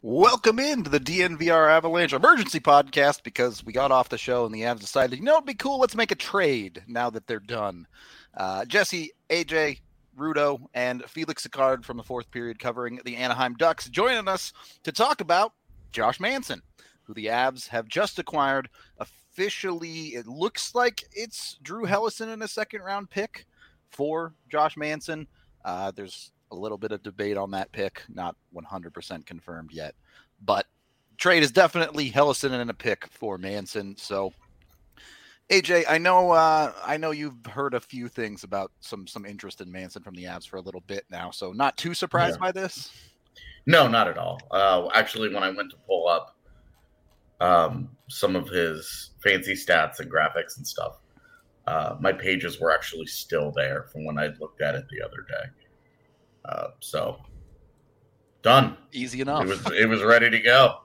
Welcome into the DNVR Avalanche emergency podcast because we got off the show and the Avs decided, it'd be cool. Let's make a trade now that they're done. Jesse, AJ, Rudo, and Felix Sicard from the fourth period covering the Anaheim Ducks joining us to talk about Josh Manson, who the Avs have just acquired. Officially, it looks like it's Drew Helleson in a second-round pick for Josh Manson. There's a little bit of debate on that pick, not 100% confirmed yet, but trade is definitely Helleson and a pick for Manson. So AJ, I know you've heard a few things about some interest in Manson from the Avs for a little bit now, so not too surprised by this. No, not at all. Actually, when I went to pull up some of his fancy stats and graphics and stuff, my pages were actually still there from when I looked at it the other day. So done. Easy enough. It was ready to go.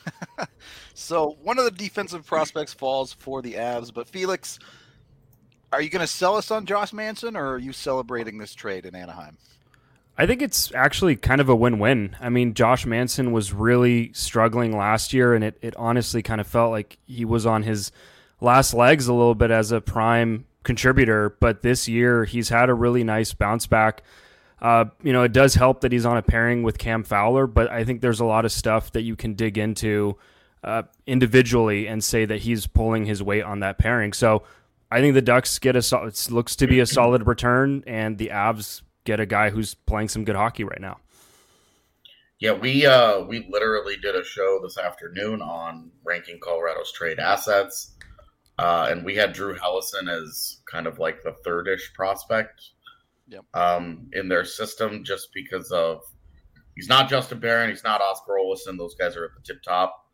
So one of the defensive prospects falls for the Avs, but Felix, are you going to sell us on Josh Manson, or are you celebrating this trade in Anaheim? I think it's actually kind of a win-win. I mean, Josh Manson was really struggling last year, and it honestly kind of felt like he was on his last legs a little bit as a prime contributor, but this year he's had a really nice bounce back. It does help that he's on a pairing with Cam Fowler, but I think there's a lot of stuff that you can dig into individually and say that he's pulling his weight on that pairing. So I think the Ducks get it looks to be a solid return, and the Avs get a guy who's playing some good hockey right now. Yeah, we literally did a show this afternoon on ranking Colorado's trade assets, and we had Drew Helleson as kind of like the third-ish prospect. Yep. In their system, just because of he's not Justin Barron, he's not Oscar Olesen. Those guys are at the tip top.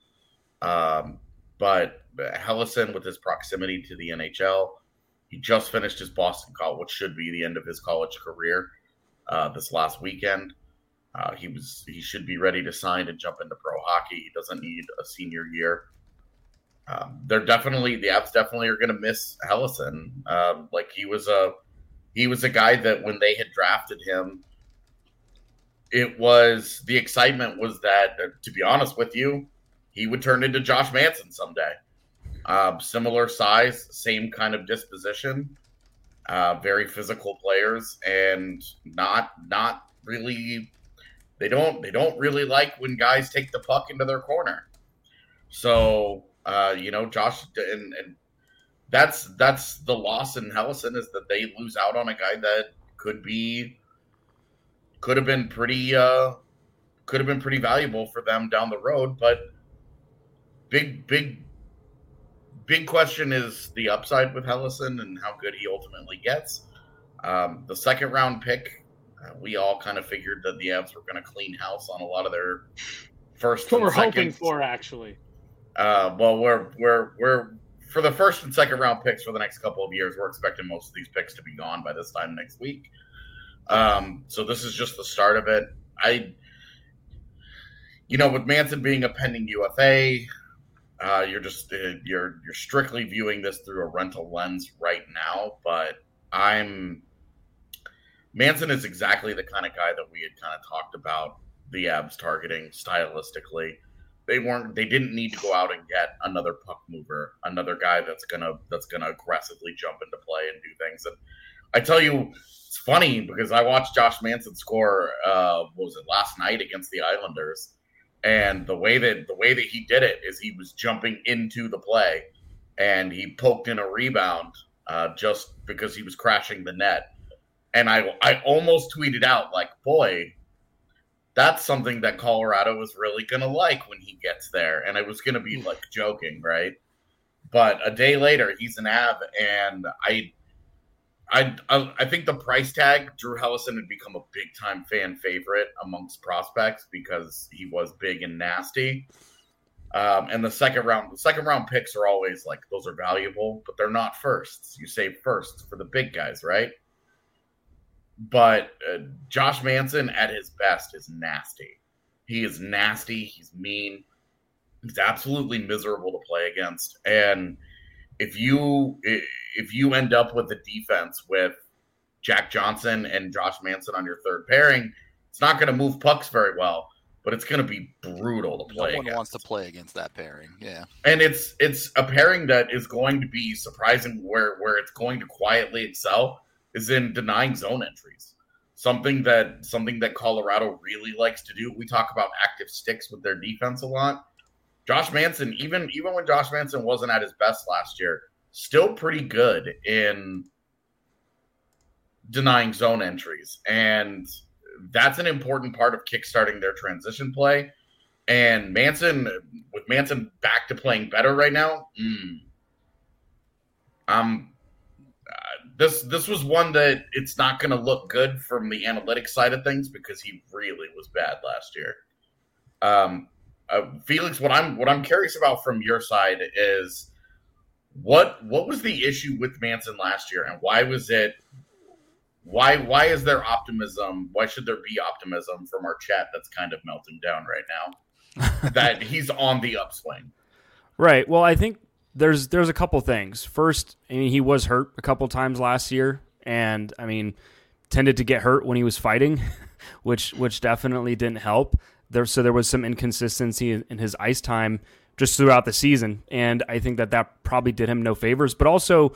But Helleson, with his proximity to the NHL, he just finished his Boston College, which should be the end of his college career, this last weekend. He should be ready to sign and jump into pro hockey. He doesn't need a senior year. The Avs definitely are going to miss Helleson. He was a guy that when they had drafted him, the excitement was that, to be honest with you, he would turn into Josh Manson someday. Similar size, same kind of disposition, very physical players, and not really. They don't really like when guys take the puck into their corner. So Josh and that's the loss in Helleson, is that they lose out on a guy that could have been pretty valuable for them down the road. But big question is the upside with Helleson and how good he ultimately gets. The second round pick, we all kind of figured that the Avs were going to clean house on a lot of their first. That's what we're hoping for, actually. We're for the first and second round picks for the next couple of years, we're expecting most of these picks to be gone by this time next week. So this is just the start of it. With Manson being a pending UFA, you're strictly viewing this through a rental lens right now. But Manson is exactly the kind of guy that we had kind of talked about the Avs targeting stylistically. They didn't need to go out and get another puck mover, another guy that's gonna aggressively jump into play and do things. And I tell you, it's funny because I watched Josh Manson score last night against the Islanders, and the way that he did it is he was jumping into the play, and he poked in a rebound just because he was crashing the net. And I almost tweeted out, like, boy, that's something that Colorado is really going to like when he gets there. And I was going to be like joking, right? But a day later, he's an Av, and I think the price tag, Drew Helleson had become a big time fan favorite amongst prospects because he was big and nasty. And the second round picks are always like, those are valuable, but they're not firsts. You save firsts for the big guys, right? But Josh Manson at his best is nasty. He is nasty. He's mean. He's absolutely miserable to play against. And if you end up with a defense with Jack Johnson and Josh Manson on your third pairing, it's not going to move pucks very well. but it's going to be brutal to play. No one wants to play against that pairing. Yeah, and it's a pairing that is going to be surprising. Where it's going to quietly excel is in denying zone entries. Something that Colorado really likes to do. We talk about active sticks with their defense a lot. Josh Manson, even when Josh Manson wasn't at his best last year, still pretty good in denying zone entries. And that's an important part of kickstarting their transition play. And with Manson back to playing better right now, this was one that it's not going to look good from the analytics side of things because he really was bad last year. Felix, what I'm curious about from your side is what was the issue with Manson last year, and why was it? Why is there optimism? Why should there be optimism from our chat that's kind of melting down right now that he's on the upswing? Right. Well, I think there's a couple things. First, I mean, he was hurt a couple times last year, and I mean, tended to get hurt when he was fighting, which definitely didn't help. So there was some inconsistency in his ice time just throughout the season, and I think that probably did him no favors. But also,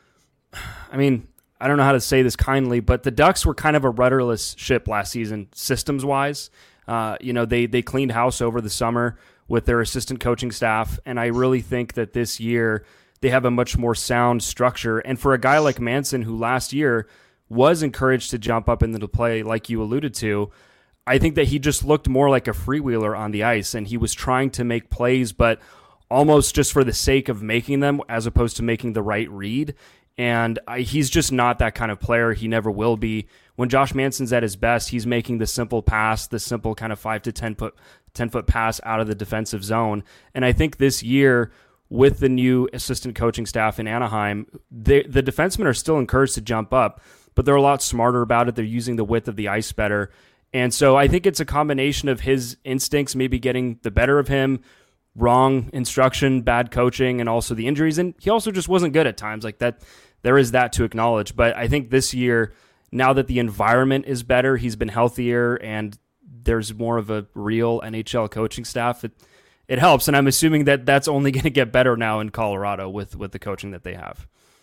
I mean, I don't know how to say this kindly, but the Ducks were kind of a rudderless ship last season, systems-wise. They cleaned house over the summer with their assistant coaching staff, and I really think that this year they have a much more sound structure. And for a guy like Manson, who last year was encouraged to jump up into the play, like you alluded to, I think that he just looked more like a freewheeler on the ice, and he was trying to make plays, but almost just for the sake of making them as opposed to making the right read. And he's just not that kind of player. He never will be. When Josh Manson's at his best, he's making the simple pass, the simple kind of 5 to 10 foot pass out of the defensive zone. And I think this year, with the new assistant coaching staff in Anaheim, the defensemen are still encouraged to jump up, but they're a lot smarter about it. They're using the width of the ice better. And so I think it's a combination of his instincts maybe getting the better of him, wrong instruction, bad coaching, and also the injuries. And he also just wasn't good at times like that. There is that to acknowledge. But I think this year, now that the environment is better, he's been healthier, and there's more of a real NHL coaching staff, it helps. And I'm assuming that that's only going to get better now in Colorado with the coaching that they have.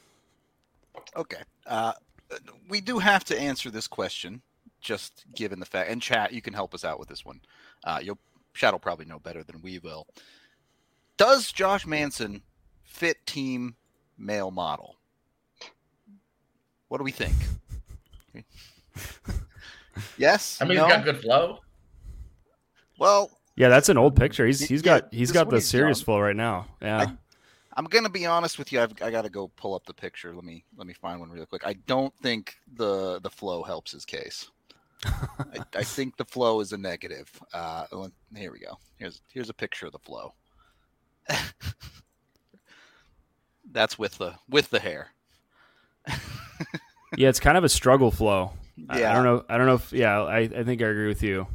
Okay. We do have to answer this question, just given the fact, and chat, you can help us out with this one. Chat will probably know better than we will. Does Josh Manson fit team male model? What do we think? Yes. I mean, he's got good flow. Well, yeah, that's an old picture. He's got the serious flow right now. Yeah. I'm gonna be honest with you. I got to go pull up the picture. Let me find one real quick. I don't think the flow helps his case. I think the flow is a negative. Here we go. Here's a picture of the flow. That's with the hair. Yeah, it's kind of a struggle flow. Yeah. I don't know if I think I agree with you.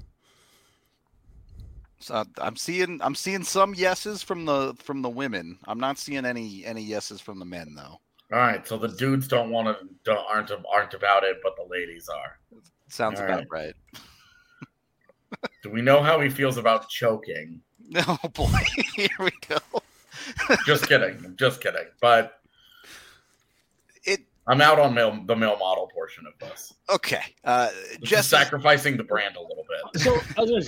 So I'm seeing some yeses from the women. I'm not seeing any yeses from the men though. All right, so the dudes aren't about it, but the ladies are. Sounds about right. Do we know how he feels about choking? Oh boy, here we go. Just kidding. But I'm out on the male model portion of this. Okay, just sacrificing the brand a little bit. So,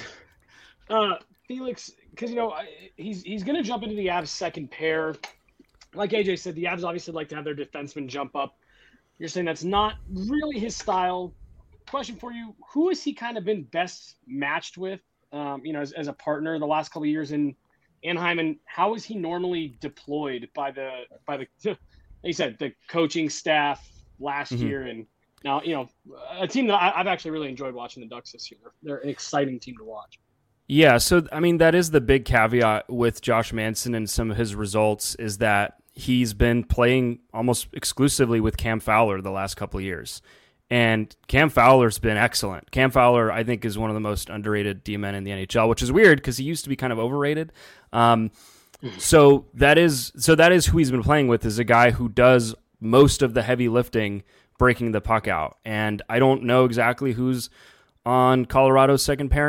Felix, because he's going to jump into the Avs second pair. Like AJ said, the Avs obviously like to have their defensemen jump up. You're saying that's not really his style. Question for you: who has he kind of been best matched with? As a partner the last couple of years in Anaheim, and how is he normally deployed by the like you said, the coaching staff last year, and now a team that I've actually really enjoyed watching the Ducks this year. They're an exciting team to watch. Yeah, so I mean that is the big caveat with Josh Manson and some of his results is that he's been playing almost exclusively with Cam Fowler the last couple of years. And Cam Fowler's been excellent. Cam Fowler, I think, is one of the most underrated D-men in the NHL, which is weird because he used to be kind of overrated. So that is who he's been playing with, is a guy who does most of the heavy lifting, breaking the puck out. And I don't know exactly who's on Colorado's second pairing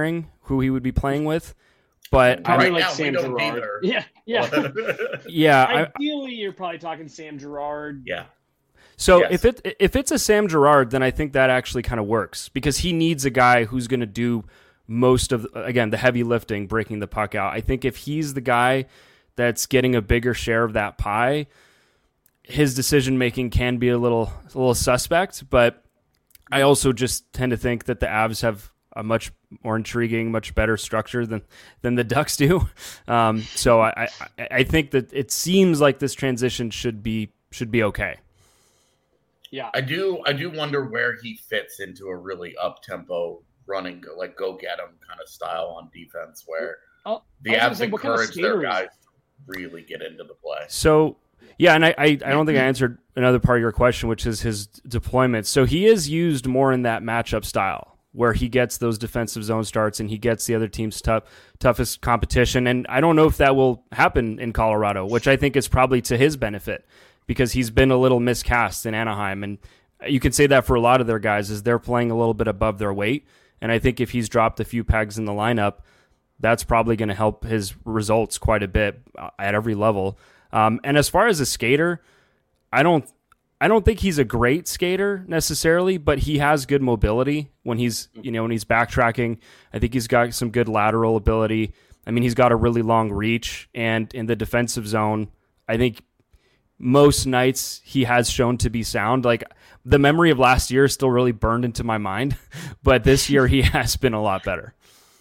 who he would be playing with. But Probably Right like now, Sam we don't Girard. either. Yeah. yeah, Ideally, you're probably talking Sam Girard. Yeah. so Yes. if it's a Sam Girard, then I think that actually kind of works because he needs a guy who's going to do most of, again, the heavy lifting, breaking the puck out. I think if he's the guy that's getting a bigger share of that pie, his decision making can be a little suspect. But I also just tend to think that the Avs have a much more intriguing, much better structure than the Ducks do. So I think that it seems like this transition should be okay. Yeah. I do wonder where he fits into a really up-tempo running, like go get him kind of style on defense, where the Avs encourage their guys to really get into the play. So yeah, and I don't think I answered another part of your question, which is his deployment. So he is used more in that matchup style where he gets those defensive zone starts and he gets the other team's toughest competition. And I don't know if that will happen in Colorado, which I think is probably to his benefit because he's been a little miscast in Anaheim. And you could say that for a lot of their guys is they're playing a little bit above their weight. And I think if he's dropped a few pegs in the lineup, that's probably going to help his results quite a bit at every level. And as far as a skater, I don't think he's a great skater necessarily, but he has good mobility when he's backtracking. I think he's got some good lateral ability. I mean, he's got a really long reach, and in the defensive zone, I think most nights he has shown to be sound. Like the memory of last year is still really burned into my mind, but this year he has been a lot better.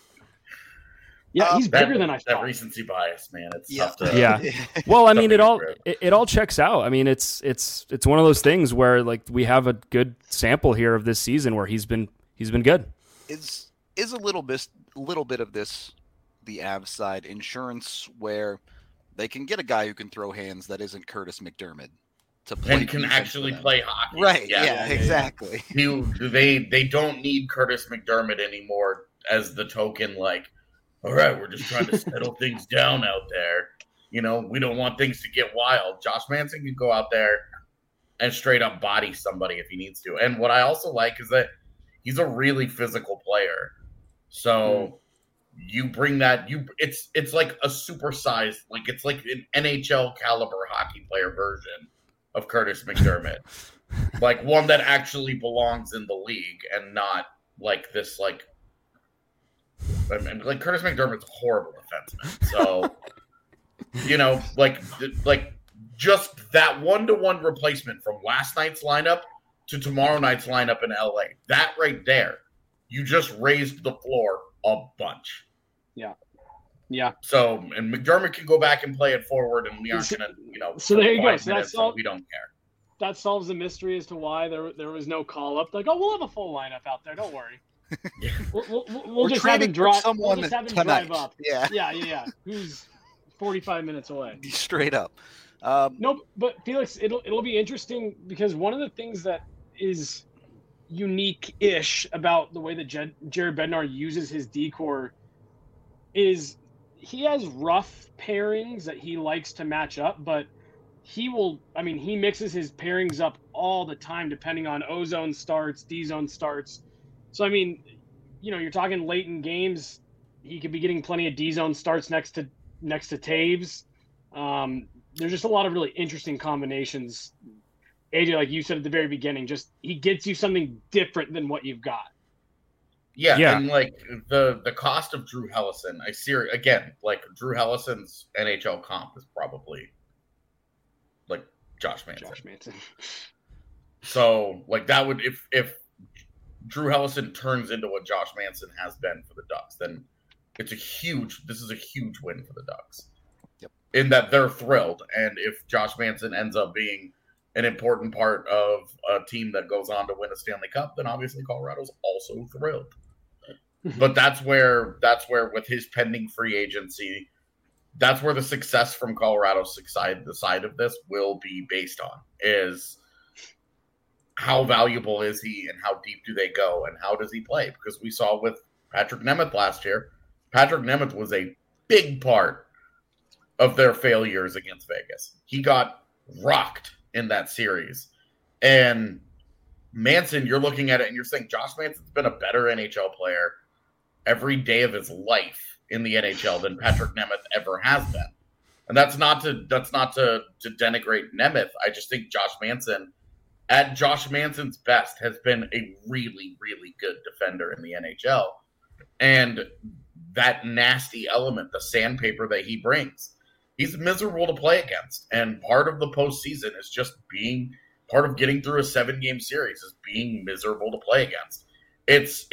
Yeah, he's bigger than I thought. That recency bias, man. It's tough to. Yeah. Well, I mean, it all checks out. I mean, it's one of those things where like we have a good sample here of this season where he's been good. Is a little bit of this the Avs side insurance where they can get a guy who can throw hands that isn't Curtis McDermott to play and can actually play hockey. Right. Yeah, exactly. They don't need Curtis McDermott anymore as the token, like, all right, we're just trying to settle things down out there. You know, we don't want things to get wild. Josh Manson can go out there and straight up body somebody if he needs to. And what I also like is that he's a really physical player. So you bring that, it's like a supersized, like it's like an NHL caliber hockey player version of Curtis McDermott. Like one that actually belongs in the league and not like this, like, I mean, like Curtis McDermott's a horrible defenseman. So, you know, like just that 1-to-1 replacement from last night's lineup to tomorrow night's lineup in LA. That right there, you just raised the floor a bunch. Yeah. Yeah. So, and McDermott can go back and play it forward, and we aren't going to, you know. So there you go. So we don't care. That solves the mystery as to why there was no call up. Like, oh, we'll have a full lineup out there. Don't worry. We'll just have him drive. We'll just have him drive up. Yeah. Who's 45 minutes away? Straight up. No, but Felix, it'll be interesting because one of the things that is unique-ish about the way that Jared Bednar uses his decor is he has rough pairings that he likes to match up, but he mixes his pairings up all the time depending on O-zone starts, D-zone starts. So, I mean, you know, you're talking late in games, he could be getting plenty of D-zone starts next to Taves. There's just a lot of really interesting combinations. AJ, like you said at the very beginning, just he gets you something different than what you've got. Yeah. And like the cost of Drew Hellison, I see again, like Drew Hellison's NHL comp is probably like Josh Manson. So like that would if Drew Hellison turns into what Josh Manson has been for the Ducks, then this is a huge win for the Ducks. Yep. In that they're thrilled. And if Josh Manson ends up being an important part of a team that goes on to win a Stanley Cup, then obviously Colorado's also thrilled. But that's where with his pending free agency, that's where the success from Colorado's side, the side of this, will be based on, is how valuable is he and how deep do they go and how does he play? Because we saw with Patrick Nemeth last year, Patrick Nemeth was a big part of their failures against Vegas. He got rocked in that series. And Manson, you're looking at it and you're saying Josh Manson's been a better NHL player every day of his life in the NHL than Patrick Nemeth ever has been. And that's not to denigrate Nemeth. I just think Josh Manson, at Josh Manson's best, has been a really, really good defender in the NHL. And that nasty element, the sandpaper that he brings, he's miserable to play against. And part of the postseason is just being part of getting through a 7-game series is being miserable to play against. It's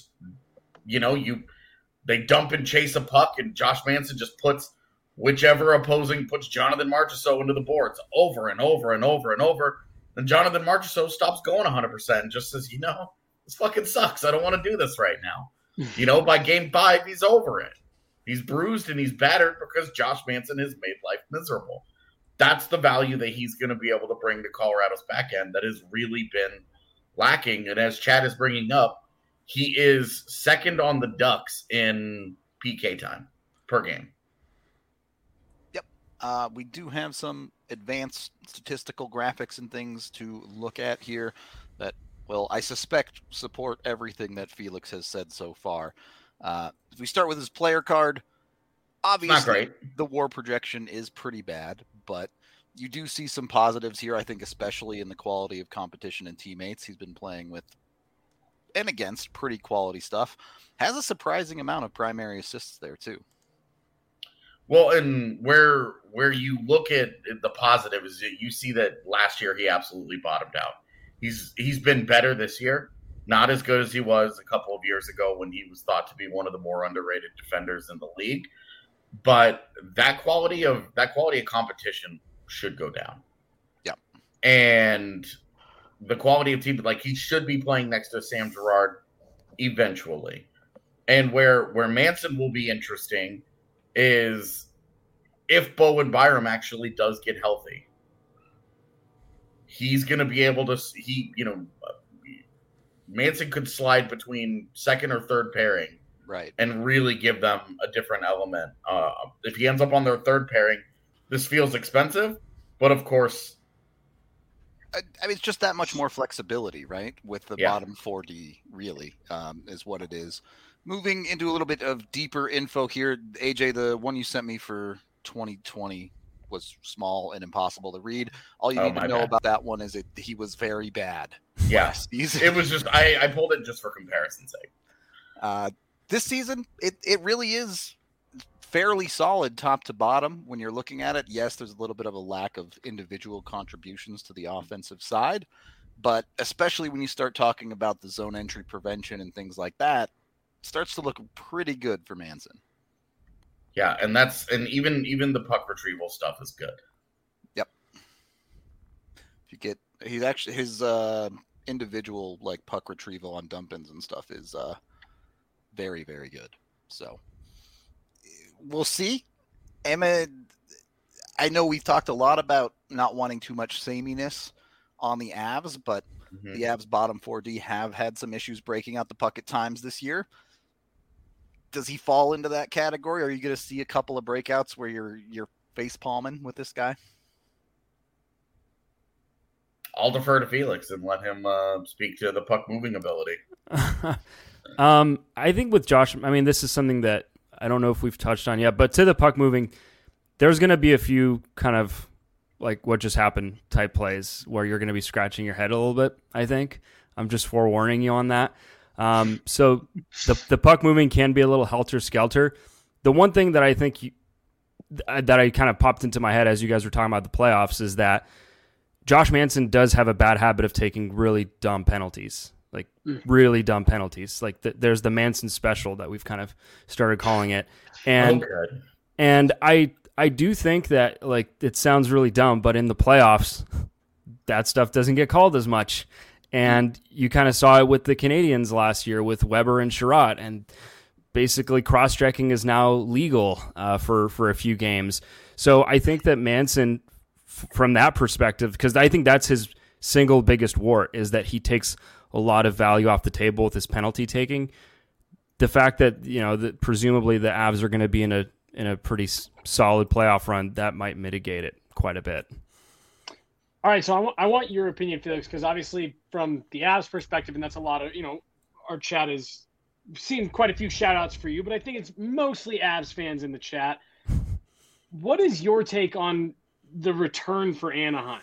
they dump and chase a puck, and Josh Manson just puts whichever opposing puts Jonathan Marchessault into the boards over and over and over and over. And Jonathan Marchessault stops going 100% and just says, this fucking sucks. I don't want to do this right now. By game 5, he's over it. He's bruised and he's battered because Josh Manson has made life miserable. That's the value that he's going to be able to bring to Colorado's back end that has really been lacking. And as Chad is bringing up, he is second on the Ducks in PK time per game. We do have some advanced statistical graphics and things to look at here that will, I suspect, support everything that Felix has said so far. If we start with his player card, obviously the WAR projection is pretty bad, but you do see some positives here, I think, especially in the quality of competition and teammates. He's been playing with and against pretty quality stuff. Has a surprising amount of primary assists there, too. Well, and where you look at the positive is that you see that last year he absolutely bottomed out. He's been better this year, not as good as he was a couple of years ago when he was thought to be one of the more underrated defenders in the league. But that quality of competition should go down. Yeah, and the quality of team, like he should be playing next to Sam Girard eventually. And where Manson will be interesting is if Bowen Byram actually does get healthy, he's going to be able to, Manson could slide between second or third pairing, right, and really give them a different element. If he ends up on their third pairing, this feels expensive, but of course, I mean, it's just that much more flexibility, right? With the bottom 4D, really, is what it is. Moving into a little bit of deeper info here, AJ, the one you sent me for 2020 was small and impossible to read. All you need to know about that one is he was very bad. Yes, it was just I pulled it just for comparison's sake. This season, it really is fairly solid top to bottom when you're looking at it. Yes, there's a little bit of a lack of individual contributions to the offensive side, but especially when you start talking about the zone entry prevention and things like that, starts to look pretty good for Manson. Yeah, and even the puck retrieval stuff is good. Yep. His individual like puck retrieval on dump-ins and stuff is very, very good. So we'll see. Emma, I know we've talked a lot about not wanting too much sameness on the Avs, but the Avs bottom 4D have had some issues breaking out the puck at times this year. Does he fall into that category? Or are you going to see a couple of breakouts where you're face palming with this guy? I'll defer to Felix and let him speak to the puck moving ability. I think with Josh, I mean, this is something that I don't know if we've touched on yet, but to the puck moving, there's going to be a few kind of like what just happened type plays where you're going to be scratching your head a little bit, I think. I'm just forewarning you on that. So the puck moving can be a little helter-skelter. The one thing that I think that I kind of popped into my head as you guys were talking about the playoffs is that Josh Manson does have a bad habit of taking really dumb penalties, like really dumb penalties. Like there's the Manson special that we've kind of started calling it. And and I do think that, like, it sounds really dumb, but in the playoffs, that stuff doesn't get called as much. And you kind of saw it with the Canadians last year with Weber and Sherratt, and basically cross-checking is now legal for a few games. So I think that Manson, from that perspective, because I think that's his single biggest wart, is that he takes a lot of value off the table with his penalty taking. The fact that, that presumably the Avs are going to be in a pretty solid playoff run, that might mitigate it quite a bit. All right, so I want your opinion, Felix, because obviously from the Avs perspective, and that's a lot of, our chat is seen quite a few shout outs for you, but I think it's mostly Avs fans in the chat. What is your take on the return for Anaheim?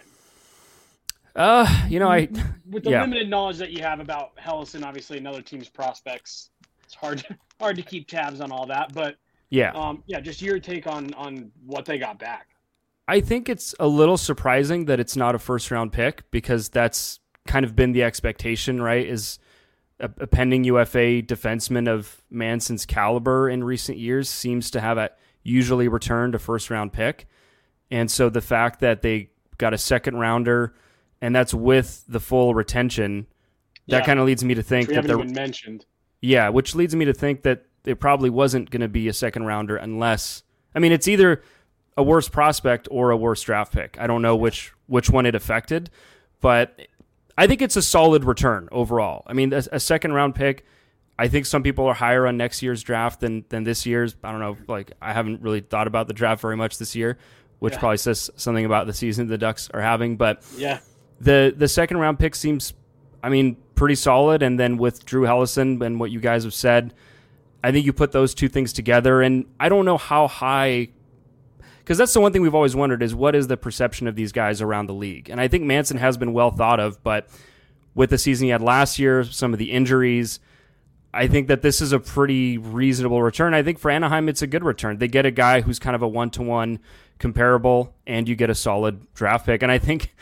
With the limited knowledge that you have about Helleson, obviously another team's prospects, it's hard to keep tabs on all that. But just your take on what they got back. I think it's a little surprising that it's not a first round pick, because that's kind of been the expectation, right? Is a pending UFA defenseman of Manson's caliber in recent years seems to have usually returned a first round pick. And so the fact that they got a second rounder, and that's with the full retention, that kind of leads me to think that they're mentioned. Yeah, which leads me to think that it probably wasn't going to be a second rounder unless, it's either a worse prospect or a worse draft pick. I don't know which one it affected, but I think it's a solid return overall. A second round pick, I think some people are higher on next year's draft than this year's. I don't know. I haven't really thought about the draft very much this year, which probably says something about the season the Ducks are having. But the second round pick seems, pretty solid. And then with Drew Helleson and what you guys have said, I think you put those two things together. And I don't know how high, because that's the one thing we've always wondered is what is the perception of these guys around the league? And I think Manson has been well thought of, but with the season he had last year, some of the injuries, I think that this is a pretty reasonable return. I think for Anaheim, it's a good return. They get a guy who's kind of a one-to-one comparable, and you get a solid draft pick. And I think,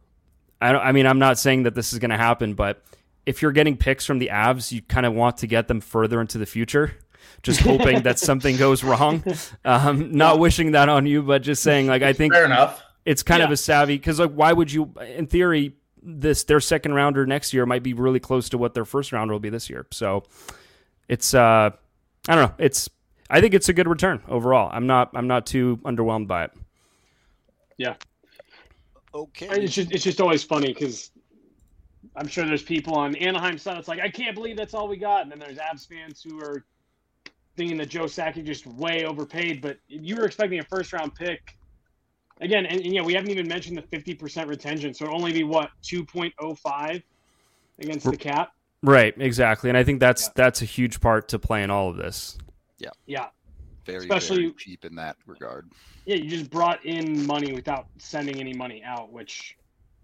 I'm not saying that this is going to happen, but if you're getting picks from the Avs, you kind of want to get them further into the future, just hoping that something goes wrong. Not wishing that on you, but just saying, I think fair enough. It's kind of a savvy, because why would you, in theory, their second rounder next year might be really close to what their first rounder will be this year. So it's I don't know. I think it's a good return overall. I'm not too underwhelmed by it. Yeah. Okay. It's just always funny because I'm sure there's people on Anaheim side. It's I can't believe that's all we got. And then there's Avs fans who are thinking that Joe Sakic just way overpaid. But if you were expecting a first round pick, again, and we haven't even mentioned the 50% retention, so it'll only be 2.05 against the cap. Right, exactly, and I think that's a huge part to play in all of this. Yeah, very cheap in that regard. Yeah, you just brought in money without sending any money out, which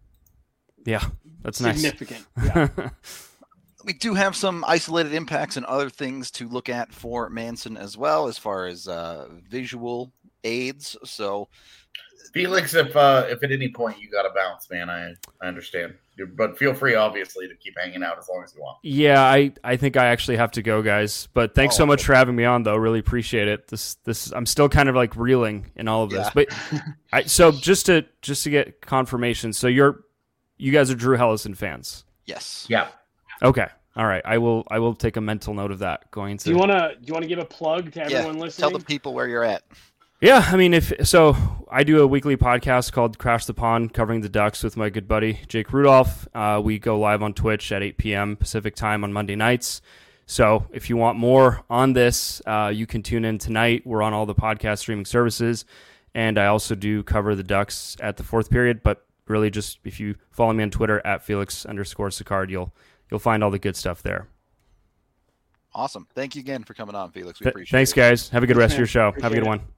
that's significant. Nice. Yeah. We do have some isolated impacts and other things to look at for Manson as well, as far as visual aids. So. Felix, if at any point you got to bounce, man, I understand. But feel free, obviously, to keep hanging out as long as you want. Yeah, I think I actually have to go, guys. But thanks so much for having me on, though. Really appreciate it. This I'm still kind of reeling in all of this. But so just to get confirmation, so you guys are Drew Helleson fans? Yes. Yeah. Okay. All right. I will take a mental note of that going to. Do you want to give a plug to everyone listening? Tell the people where you're at. Yeah, I do a weekly podcast called Crash the Pond, covering the Ducks with my good buddy Jake Rudolph. We go live on Twitch at 8 p.m. Pacific time on Monday nights. So if you want more on this, you can tune in tonight. We're on all the podcast streaming services, and I also do cover the Ducks at the fourth period. But really, just if you follow me on Twitter at Felix_Sicard, you'll find all the good stuff there. Awesome. Thank you again for coming on, Felix. We appreciate it. Thanks, guys. Have a good rest of your show. Have a good one.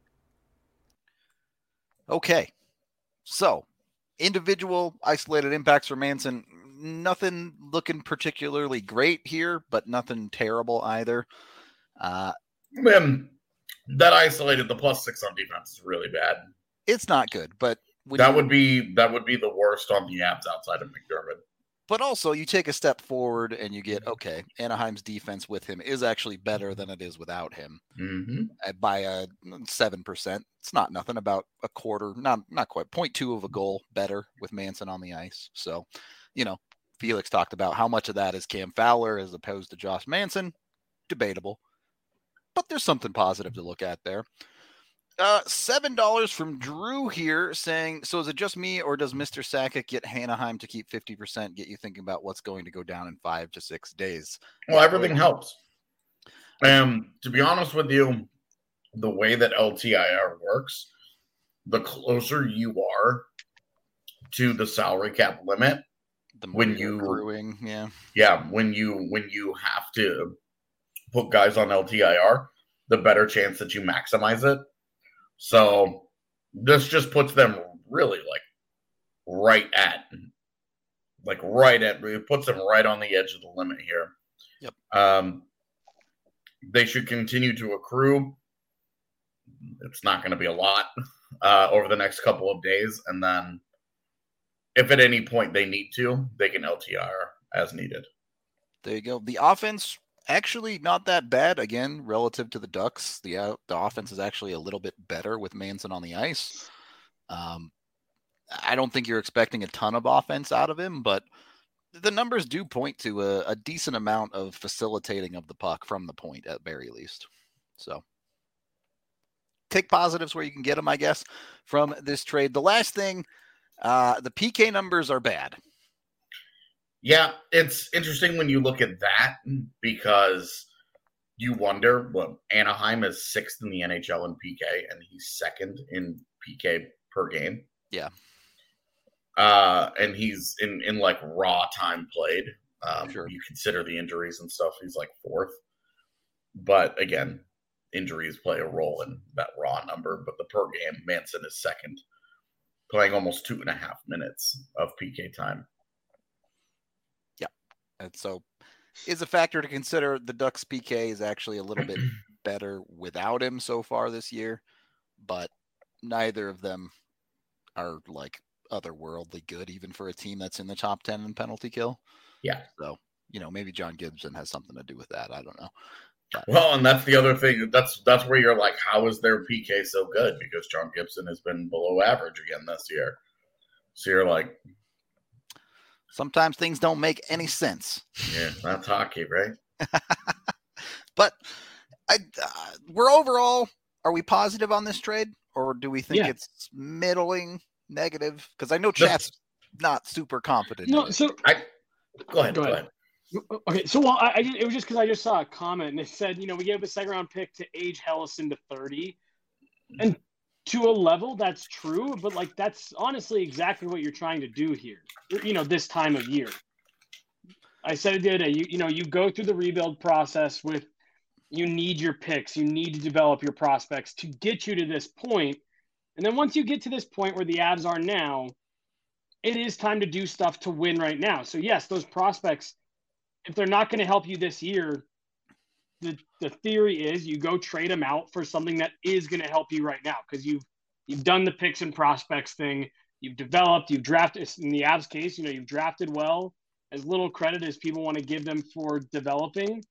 Okay, so individual isolated impacts for Manson. Nothing looking particularly great here, but nothing terrible either. That isolated the +6 on defense is really bad. It's not good, but that would be the worst on the Avs outside of McDermott. But also, you take a step forward and you get, Anaheim's defense with him is actually better than it is without him by 7%. It's not nothing, about a quarter, not quite, 0.2 of a goal better with Manson on the ice. So, Felix talked about how much of that is Cam Fowler as opposed to Josh Manson. Debatable. But there's something positive to look at there. $7 from Drew here saying, so is it just me or does Mr. Sakic get Anaheim to keep 50% get you thinking about what's going to go down in 5 to 6 days? Well, everything helps. To be honest with you, the way that LTIR works, the closer you are to the salary cap limit, the more when you accruing, when you have to put guys on LTIR, the better chance that you maximize it. So this just puts them really it puts them right on the edge of the limit here. Yep. They should continue to accrue. It's not going to be a lot over the next couple of days. And then if at any point they need to, they can LTIR as needed. There you go. The offense, actually not that bad, again, relative to the Ducks. The offense is actually a little bit better with Manson on the ice. I don't think you're expecting a ton of offense out of him, but the numbers do point to a decent amount of facilitating of the puck from the point at very least. So take positives where you can get them, I guess, from this trade. The last thing, the PK numbers are bad. Yeah, it's interesting when you look at that because you wonder, well, Anaheim is 6th in the NHL in PK, and he's 2nd in PK per game. Yeah. And he's in like raw time played. Sure. You consider the injuries and stuff, he's like 4th. But again, injuries play a role in that raw number. But the per game, Manson is 2nd, playing almost 2.5 minutes of PK time. Yeah. And so is a factor to consider. The Ducks PK is actually a little bit better without him so far this year, but neither of them are like otherworldly good, even for a team that's in the top 10 in penalty kill. Yeah. So, maybe John Gibson has something to do with that. I don't know. But, well, and that's the other thing. That's where you're like, how is their PK so good? Because John Gibson has been below average again this year. So you're like, sometimes things don't make any sense. Yeah, that's hockey, right? But we're overall, are we positive on this trade? Or do we think it's middling, negative? Because I know chat's not super confident. No, so go ahead. Okay, so it was just because I just saw a comment and it said, we gave up a 2nd round pick to age Hellison to 30, and to a level that's true, but like that's honestly exactly what you're trying to do here. This time of year. I said it the other day. You go through the rebuild process with. You need your picks. You need to develop your prospects to get you to this point. And then once you get to this point where the Avs are now, it is time to do stuff to win right now. So yes, those prospects, if they're not going to help you this year, the theory is you go trade them out for something that is going to help you right now because you've done the picks and prospects thing. You've developed, you've drafted. In the Avs case, you've drafted well. As little credit as people want to give them for developing.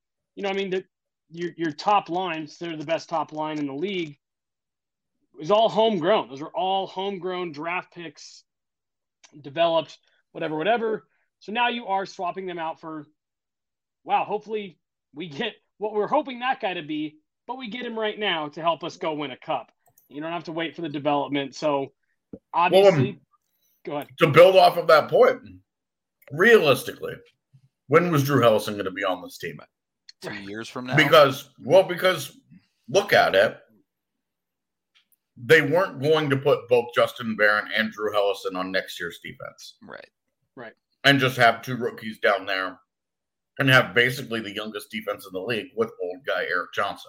Your top lines, they're the best top line in the league, is all homegrown. Those are all homegrown draft picks, developed, whatever. So now you are swapping them out for, hopefully we get what we're hoping that guy to be, but we get him right now to help us go win a cup. You don't have to wait for the development. So obviously, go ahead. To build off of that point, realistically, when was Drew Hellison going to be on this team? 2 years from now? Because look at it. They weren't going to put both Justin Barron and Drew Hellison on next year's defense. Right. And just have 2 rookies down there and have basically the youngest defense in the league with old guy Eric Johnson.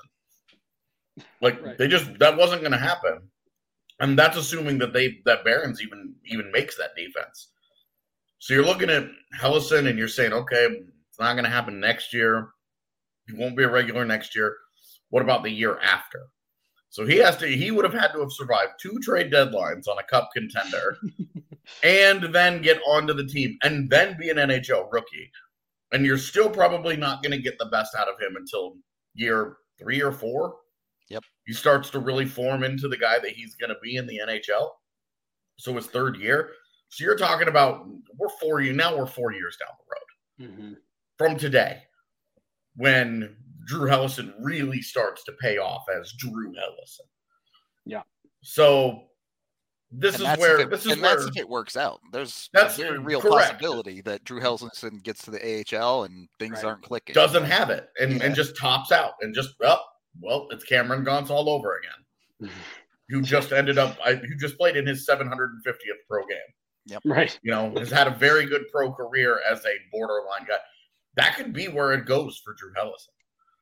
That wasn't going to happen. And that's assuming that Barron's even makes that defense. So you're looking at Hellison and you're saying, okay, it's not going to happen next year. He won't be a regular next year. What about the year after? So he would have had to have survived 2 trade deadlines on a cup contender and then get onto the team and then be an NHL rookie. And you're still probably not going to get the best out of him until year 3 or 4. Yep. He starts to really form into the guy that he's going to be in the NHL. So his 3rd year. So you're talking about we're 4 years down the road from today. When Drew Hellison really starts to pay off as Drew Hellison. Yeah. So that's if it works out. There's a very real possibility that Drew Hellison gets to the AHL and things aren't clicking. Doesn't have it and just tops out and just it's Cameron Gauntz all over again. Who just played in his 750th pro game. Yep. Right. Has had a very good pro career as a borderline guy. That could be where it goes for Drew Hellison.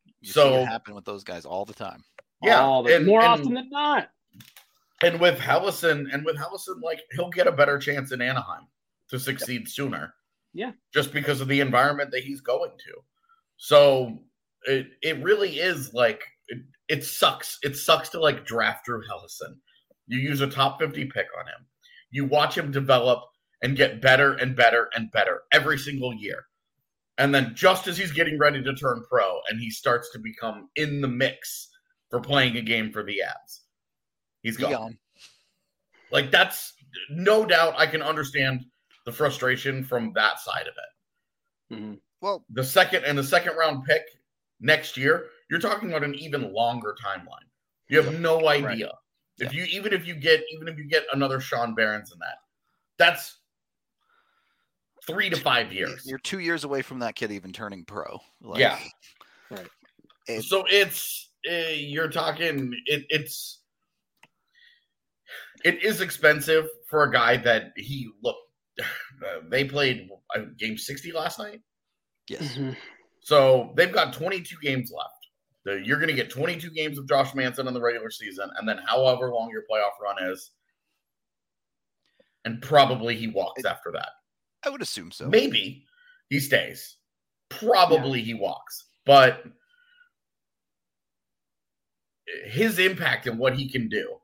You see it happen with those guys all the time. Yeah, more often than not. And with Helleson, like he'll get a better chance in Anaheim to succeed sooner. Yeah, just because of the environment that he's going to. So it really is like it sucks. It sucks to like draft Drew Helleson. You use a top 50 pick on him. You watch him develop and get better and better and better every single year. And then just as he's getting ready to turn pro and he starts to become in the mix for playing a game for the Avs, he's gone. Like, that's no doubt. I can understand the frustration from that side of it. Mm-hmm. Well, the second round pick next year, you're talking about an even longer timeline. You have no idea. Right. Even if you get another Sean Behrens in that's 3 to 5 years. You're 2 years away from that kid even turning pro. Like, yeah. Right. So you're talking it is expensive for a guy that they played game 60 last night. Yes. Mm-hmm. So they've got 22 games left. You're going to get 22 games of Josh Manson in the regular season, and then however long your playoff run is, and probably he walks after that. I would assume so. Maybe he stays. Probably he walks. But his impact and what he can do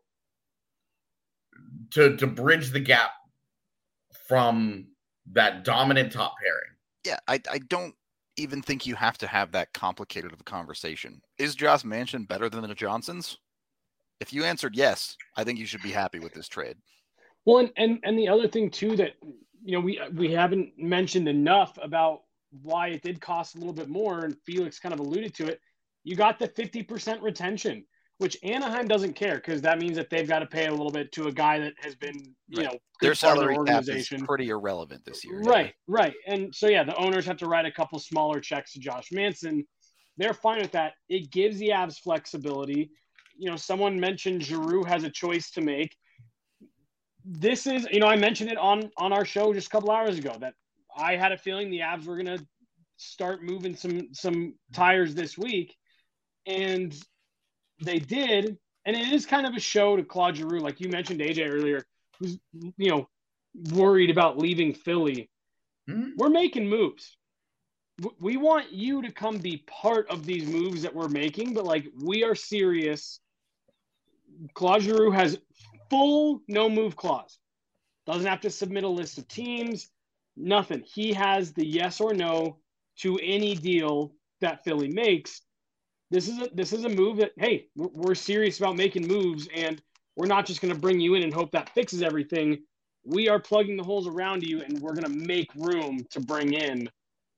to bridge the gap from that dominant top pairing. Yeah, I don't even think you have to have that complicated of a conversation. Is Josh Manson better than the Johnsons? If you answered yes, I think you should be happy with this trade. Well, and the other thing too that we haven't mentioned enough about why it did cost a little bit more, and Felix kind of alluded to it. You got the 50% retention, which Anaheim doesn't care because that means that they've got to pay a little bit to a guy that has been, their salary cap is pretty irrelevant this year. Right. And so, the owners have to write a couple smaller checks to Josh Manson. They're fine with that. It gives the Avs flexibility. Someone mentioned Giroux has a choice to make. This is, I mentioned it on our show just a couple hours ago that I had a feeling the Avs were going to start moving some tires this week. And they did, and it is kind of a show to Claude Giroux, like you mentioned, AJ earlier, who's worried about leaving Philly. Mm-hmm. We're making moves. We want you to come be part of these moves that we're making, but we are serious. Claude Giroux has full no move clause. Doesn't have to submit a list of teams. Nothing. He has the yes or no to any deal that Philly makes. This is a move that, hey, we're serious about making moves, and we're not just going to bring you in and hope that fixes everything. We are plugging the holes around you, and we're going to make room to bring in,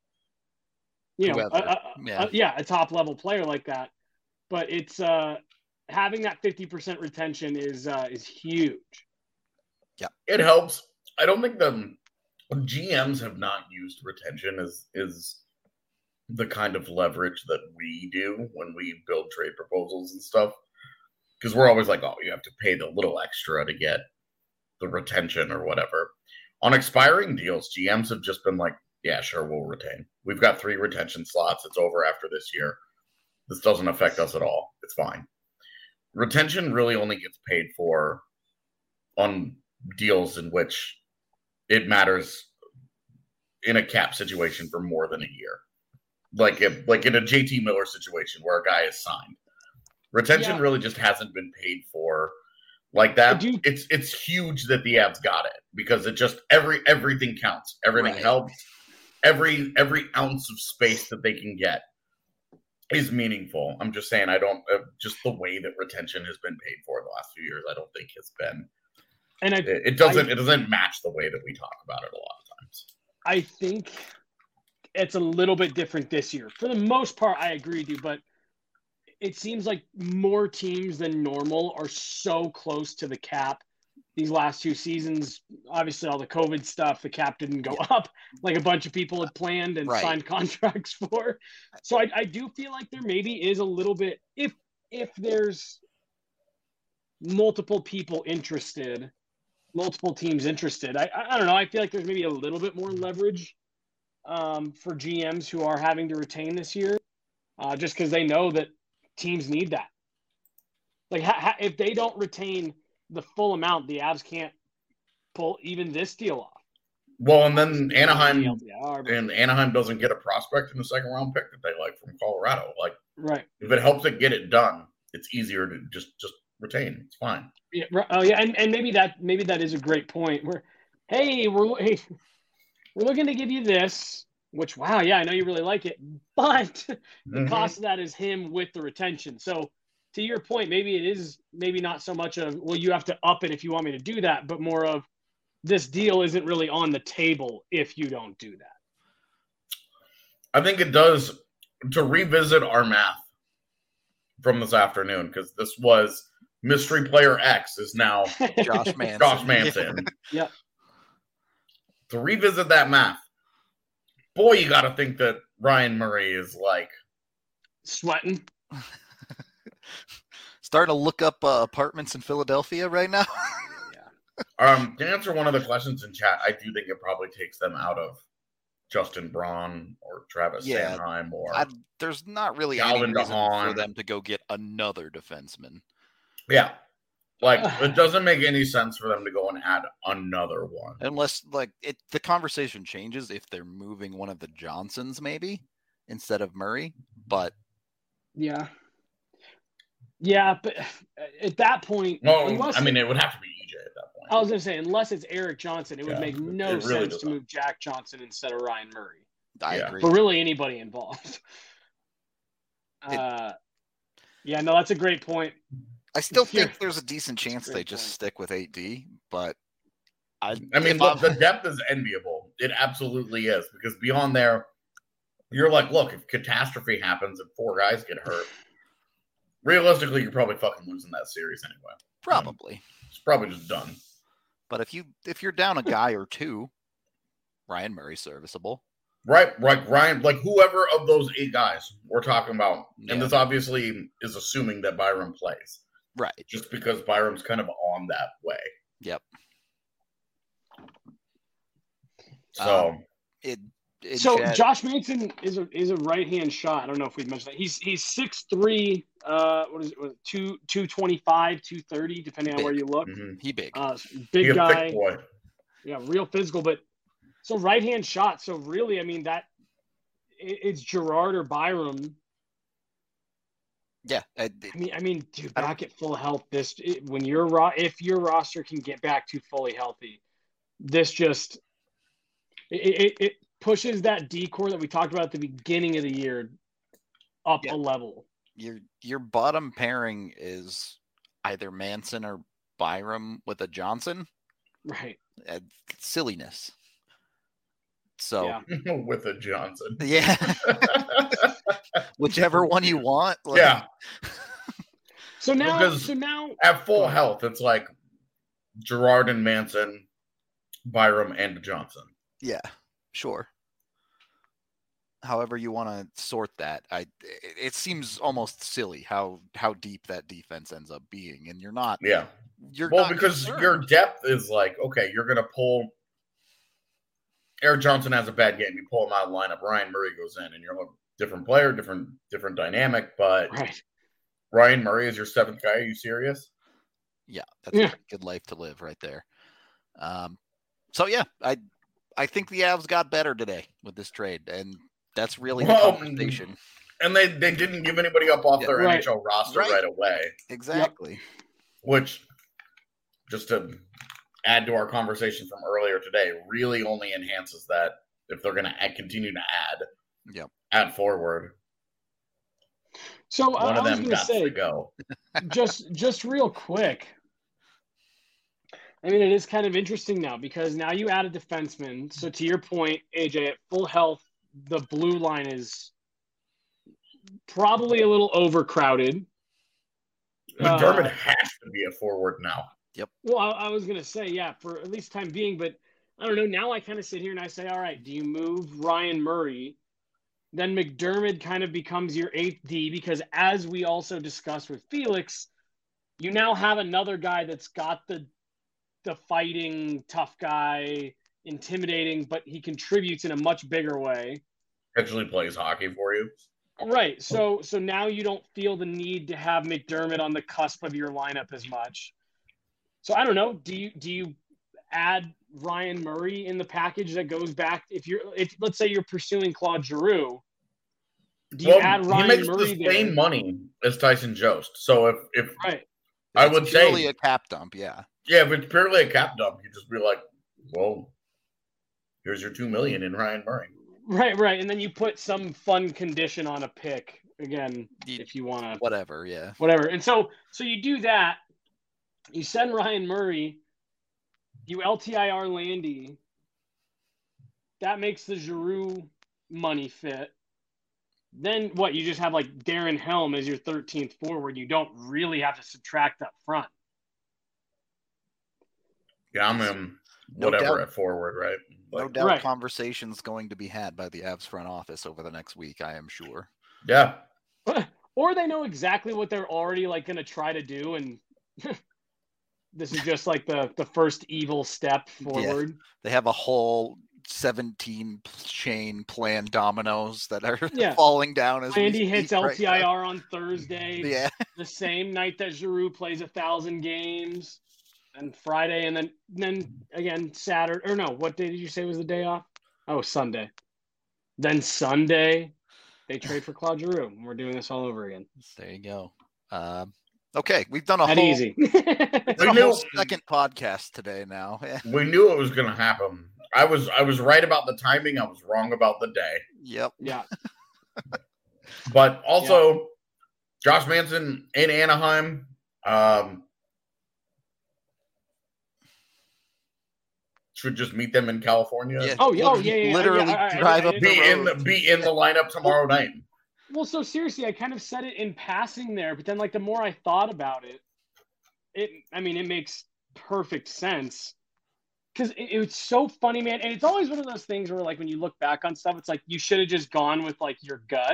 a top level player like that. But it's having that 50% retention is huge. Yeah, it helps. I don't think the GMs have not used retention is the kind of leverage that we do when we build trade proposals and stuff. Because we're always like, oh, you have to pay the little extra to get the retention or whatever. On expiring deals, GMs have just been like, yeah, sure, we'll retain. We've got 3 retention slots. It's over after this year. This doesn't affect us at all. It's fine. Retention really only gets paid for on deals in which it matters in a cap situation for more than a year. Like in a JT Miller situation where a guy is signed. Retention really just hasn't been paid for like that. It's huge that the Avs got it because it just everything counts. Everything helps. Every ounce of space that they can get is meaningful. I'm just saying just the way that retention has been paid for the last few years, I don't think has been. And it doesn't match the way that we talk about it a lot of times. I think it's a little bit different this year. For the most part, I agree with you, but it seems like more teams than normal are so close to the cap these last 2 seasons. Obviously, all the COVID stuff, the cap didn't go up like a bunch of people had planned and signed contracts for. So I do feel like there maybe is a little bit, if there's multiple people interested, multiple teams interested, I don't know. I feel like there's maybe a little bit more leverage for GMs who are having to retain this year. just because they know that teams need that. Like, if they don't retain the full amount, the Avs can't pull even this deal off. Well, and then Anaheim doesn't get a prospect in the second round pick that they like from Colorado. Like, right. If it helps it get it done, it's easier to just retain. It's fine. Yeah. Oh, yeah. And maybe that is a great point. We're looking to give you this, which, wow, yeah, I know you really like it, but the cost of that is him with the retention. So to your point, maybe it is not so much of, well, you have to up it if you want me to do that, but more of, this deal isn't really on the table if you don't do that. I think it does, to revisit our math from this afternoon, because this was mystery player X is now Josh Manson. Josh Manson. Yeah. To revisit that math, boy, you got to think that Ryan Murray is like sweating. Starting to look up apartments in Philadelphia right now. To answer one of the questions in chat, I do think it probably takes them out of Justin Braun or Travis Sanheim or there's not really Calvin any reason DeHaan for them to go get another defenseman. Yeah. Like, it doesn't make any sense for them to go and add another one. Unless, the conversation changes if they're moving one of the Johnsons, maybe, instead of Murray. But yeah. Yeah, but at that point... No, it would have to be EJ at that point. I was going to say, unless it's Erik Johnson, it would make no sense to move Jack Johnson instead of Ryan Murray. I agree. But really anybody involved. That's a great point. I still think there's a decent chance they just stick with 8D, but the depth is enviable. It absolutely is, because beyond there, you're like, look, if catastrophe happens and 4 guys get hurt, realistically, you're probably fucking losing that series anyway. Probably. It's probably just done. But if you're down a guy or two, Ryan Murray's serviceable. Right, Ryan, like whoever of those 8 guys we're talking about, and this obviously is assuming that Byram plays. Right. Just because Byram's kind of on that way. Yep. So Josh Manson is a right-hand shot. I don't know if we've mentioned that. He's 6'3", what is it, 225, 230, depending on where you look. Mm-hmm. He big. Big guy. Thick boy. Yeah, real physical, but so right-hand shot. So really, it's Gerard or Byram. Yeah. Dude, back at full health, if your roster can get back to fully healthy, this just it pushes that decor that we talked about at the beginning of the year up a level. Your bottom pairing is either Manson or Byram with a Johnson. Right. Silliness. So with a Johnson. Yeah. Whichever one you want. Yeah. So now at full health, it's like Gerard and Manson, Byram and Johnson. Yeah, sure. However you want to sort that, it seems almost silly how deep that defense ends up being, and you're not. Yeah. Because your depth is like, okay, you're gonna pull. Erik Johnson has a bad game. You pull him out of the lineup. Ryan Murray goes in, and you're a different player, different dynamic. But Ryan Murray is your 7th guy. Are you serious? Yeah, that's a good life to live right there. So yeah, I think the Avs got better today with this trade, and that's really the conversation. And they didn't give anybody up off their NHL roster right away. Exactly. Yep. Which, just to add to our conversation from earlier today, really only enhances that if they're going to continue to add forward. So one of them got to go. just real quick. It is kind of interesting now because now you add a defenseman. So to your point, AJ, at full health, the blue line is probably a little overcrowded. McDermott has to be a forward now. Yep. Well, I was going to say, for at least time being, but I don't know. Now I kind of sit here and I say, all right, do you move Ryan Murray? Then McDermott kind of becomes your 8th D because as we also discussed with Felix, you now have another guy that's got the fighting, tough guy, intimidating, but he contributes in a much bigger way. Actually plays hockey for you. Right. So now you don't feel the need to have McDermott on the cusp of your lineup as much. So I don't know. Do you add Ryan Murray in the package that goes back if let's say you're pursuing Claude Giroux? Do you add Ryan Murray? He makes Murray the same money as Tyson Jost. So if right. I would say purely a cap dump, yeah. Yeah, if it's purely a cap dump, you just be like, well, here's your $2 million in Ryan Murray. Right, and then you put some fun condition on a pick again if you want to. Whatever, yeah. Whatever, and so you do that. You send Ryan Murray. You LTIR Landy. That makes the Giroux money fit. Then what? You just have like Darren Helm as your 13th forward. You don't really have to subtract up front. Yeah, I'm whatever at forward, right? No doubt conversations going to be had by the Avs front office over the next week, I am sure. Yeah. Or they know exactly what they're already like going to try to do, and this is just like the first evil step forward. Yeah. They have a whole 17 chain plan dominoes that are falling down as Andy hits LTIR on Thursday. Yeah. The same night that Giroux plays 1,000 games. And Friday, and then again Saturday. Or no, what day did you say was the day off? Oh, Sunday. Then Sunday, they trade for Claude Giroux. We're doing this all over again. There you go. Okay, we've done a whole second podcast today. Now we knew it was going to happen. I was right about the timing. I was wrong about the day. Yep. Yeah. But also, Josh Manson in Anaheim. Should just meet them in California. Yeah. Yeah. Literally drive up. Be in the lineup tomorrow night. Well, so seriously, I kind of said it in passing there, but then like the more I thought about it, it makes perfect sense because it's so funny, man. And it's always one of those things where like when you look back on stuff, it's like you should have just gone with like your gut.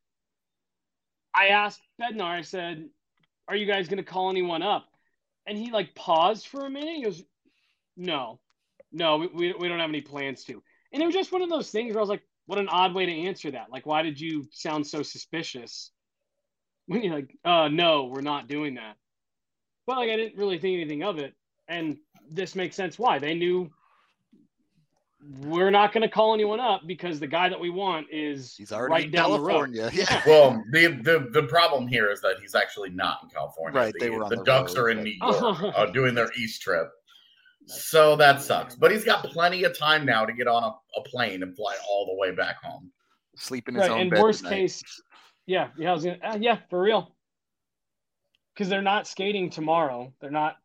I asked Bednar, I said, "Are you guys going to call anyone up?" And he like paused for a minute. He goes, No, we don't have any plans to. And it was just one of those things where I was like, what an odd way to answer that. Like, why did you sound so suspicious? When you're like, no, we're not doing that. But like, I didn't really think anything of it. And this makes sense why. They knew we're not going to call anyone up because the guy that we want is he's already right in down California. the road. Yeah. Well, the problem here is that he's actually not in California. Right. They were on the Ducks road, are in New York doing their East trip. So that sucks. But he's got plenty of time now to get on a plane and fly all the way back home. Sleep in his own bed. And worst tonight. case, for real. Because they're not skating tomorrow. They're not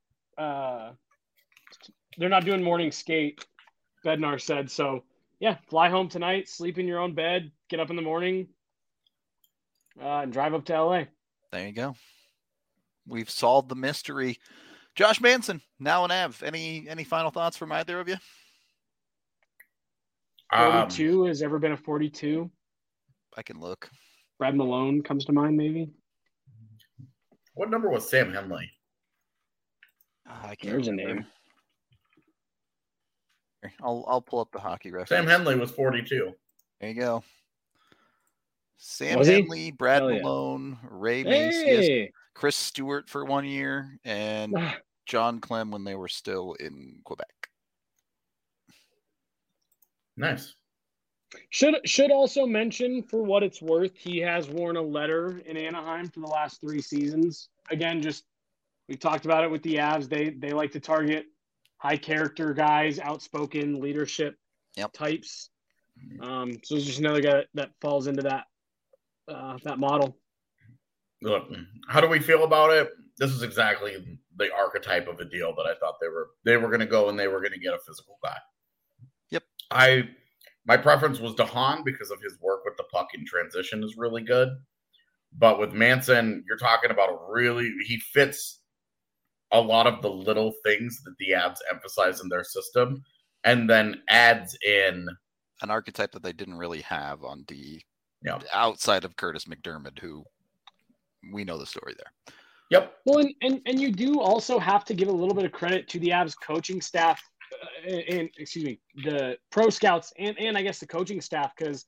doing morning skate, Bednar said. So, fly home tonight, sleep in your own bed, get up in the morning, and drive up to LA. There you go. We've solved the mystery. Josh Manson, now an Av. Any final thoughts from either of you? 42 has ever been a 42. I can look. Brad Malone comes to mind, maybe. What number was Sam Henley? I can't There's remember. a name. I'll pull up the hockey reference. Sam Henley was 42. There you go. Sam Henley, Brad Malone, Ray Macias, Chris Stewart for 1 year, and John Clem when they were still in Quebec. Nice. Should also mention, for what it's worth, he has worn a letter in Anaheim for the last 3 seasons. Again, we talked about it with the Avs. They like to target high character guys, outspoken leadership types. So it's just another guy that falls into that model. Look, how do we feel about it? This is exactly the archetype of a deal that I thought they were going to go and they were going to get a physical guy. Yep. My preference was DeHaan because of his work with the puck in transition is really good. But with Manson, you're talking about he fits a lot of the little things that the Avs emphasize in their system and then adds in an archetype that they didn't really have on D outside of Curtis McDermott, who we know the story there. Yep. Well, and you do also have to give a little bit of credit to the Avs coaching staff and the pro scouts and I guess the coaching staff, because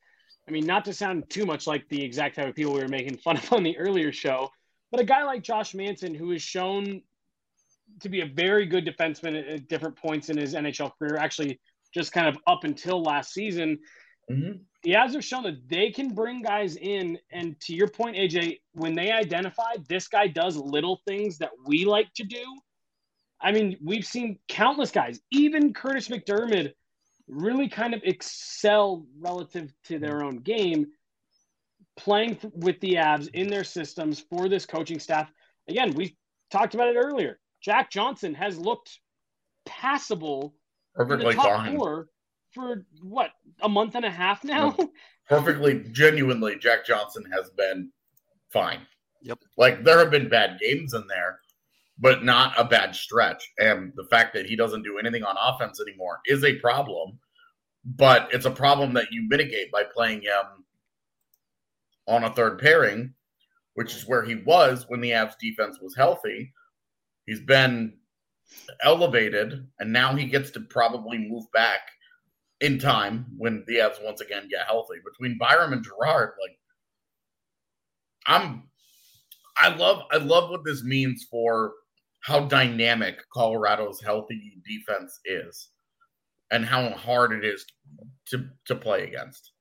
I mean, not to sound too much like the exact type of people we were making fun of on the earlier show, but a guy like Josh Manson, who has shown to be a very good defenseman at different points in his NHL career, actually just kind of up until last season, the Avs have shown that they can bring guys in. And to your point, AJ, when they identify this guy does little things that we like to do, I mean, we've seen countless guys, even Curtis McDermott, really kind of excel relative to their own game, playing with the Avs in their systems for this coaching staff. Again, we talked about it earlier. Jack Johnson has looked passable Perfectly in the top fine. four for, what, a month and a half now? Perfectly, genuinely, Jack Johnson has been fine. Yep. Like, there have been bad games in there, but not a bad stretch. And the fact that he doesn't do anything on offense anymore is a problem, but it's a problem that you mitigate by playing him on a third pairing, which is where he was when the Avs defense was healthy. He's been elevated, and now he gets to probably move back in time when the Avs once again get healthy. Between Byram and Girard, like, I love what this means for how dynamic Colorado's healthy defense is and how hard it is to play against.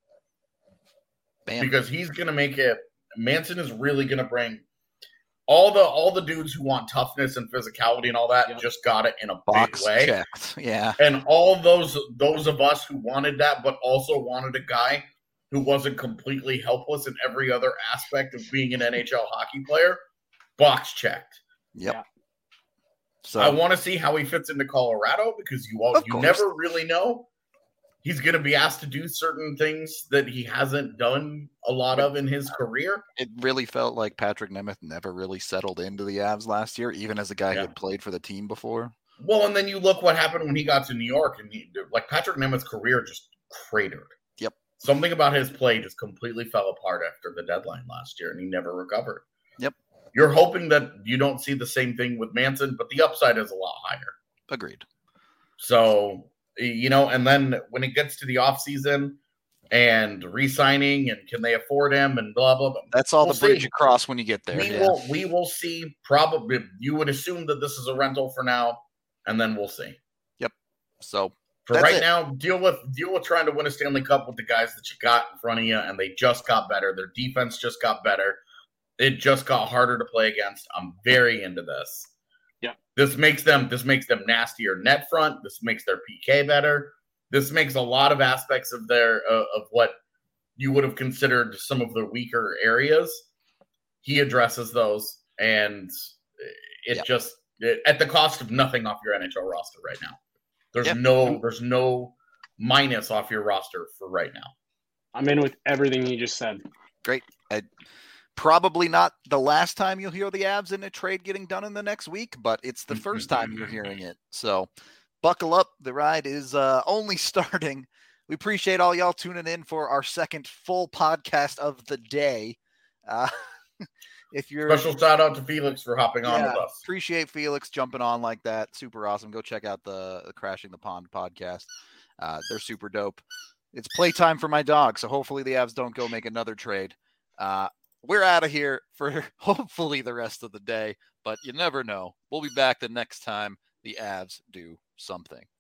Bam. Because he's going to make it. Manson is really going to bring all the dudes who want toughness and physicality and all that just got it in a Box big way. checked. Yeah. And all those of us who wanted that, but also wanted a guy who wasn't completely helpless in every other aspect of being an NHL hockey player, box checked. Yep. Yeah. So I want to see how he fits into Colorado because you never really know. He's going to be asked to do certain things that he hasn't done a lot of in his career. it really felt like Patrick Nemeth never really settled into the Avs last year, even as a guy who had played for the team before. Well, and then you look what happened when he got to New York, and Patrick Nemeth's career just cratered. Yep. Something about his play just completely fell apart after the deadline last year, and he never recovered. Yep. You're hoping that you don't see the same thing with Manson, but the upside is a lot higher. Agreed. So, and then when it gets to the offseason and re-signing and can they afford him and blah, blah, blah. That's all the bridge you cross when you get there. We will see. Probably, you would assume that this is a rental for now, and then we'll see. Yep. So for right now, deal with trying to win a Stanley Cup with the guys that you got in front of you, and they just got better. Their defense just got better. It just got harder to play against. I'm very into this. Yeah. This makes them nastier net front. This makes their PK better. This makes a lot of aspects of their of what you would have considered some of the weaker areas. He addresses those, and just at the cost of nothing off your NHL roster right now. There's no minus off your roster for right now. I'm in with everything you just said. Great. Probably not the last time you'll hear the Avs in a trade getting done in the next week, but it's the first time you're hearing it. So buckle up. The ride is only starting. We appreciate all y'all tuning in for our second full podcast of the day. If you're special shout out to Felix for hopping on with us. Appreciate Felix jumping on like that. Super awesome. Go check out the Crashing the Pond podcast. They're super dope. It's playtime for my dog, so hopefully the Avs don't go make another trade. We're out of here for hopefully the rest of the day, but you never know. We'll be back the next time the Avs do something.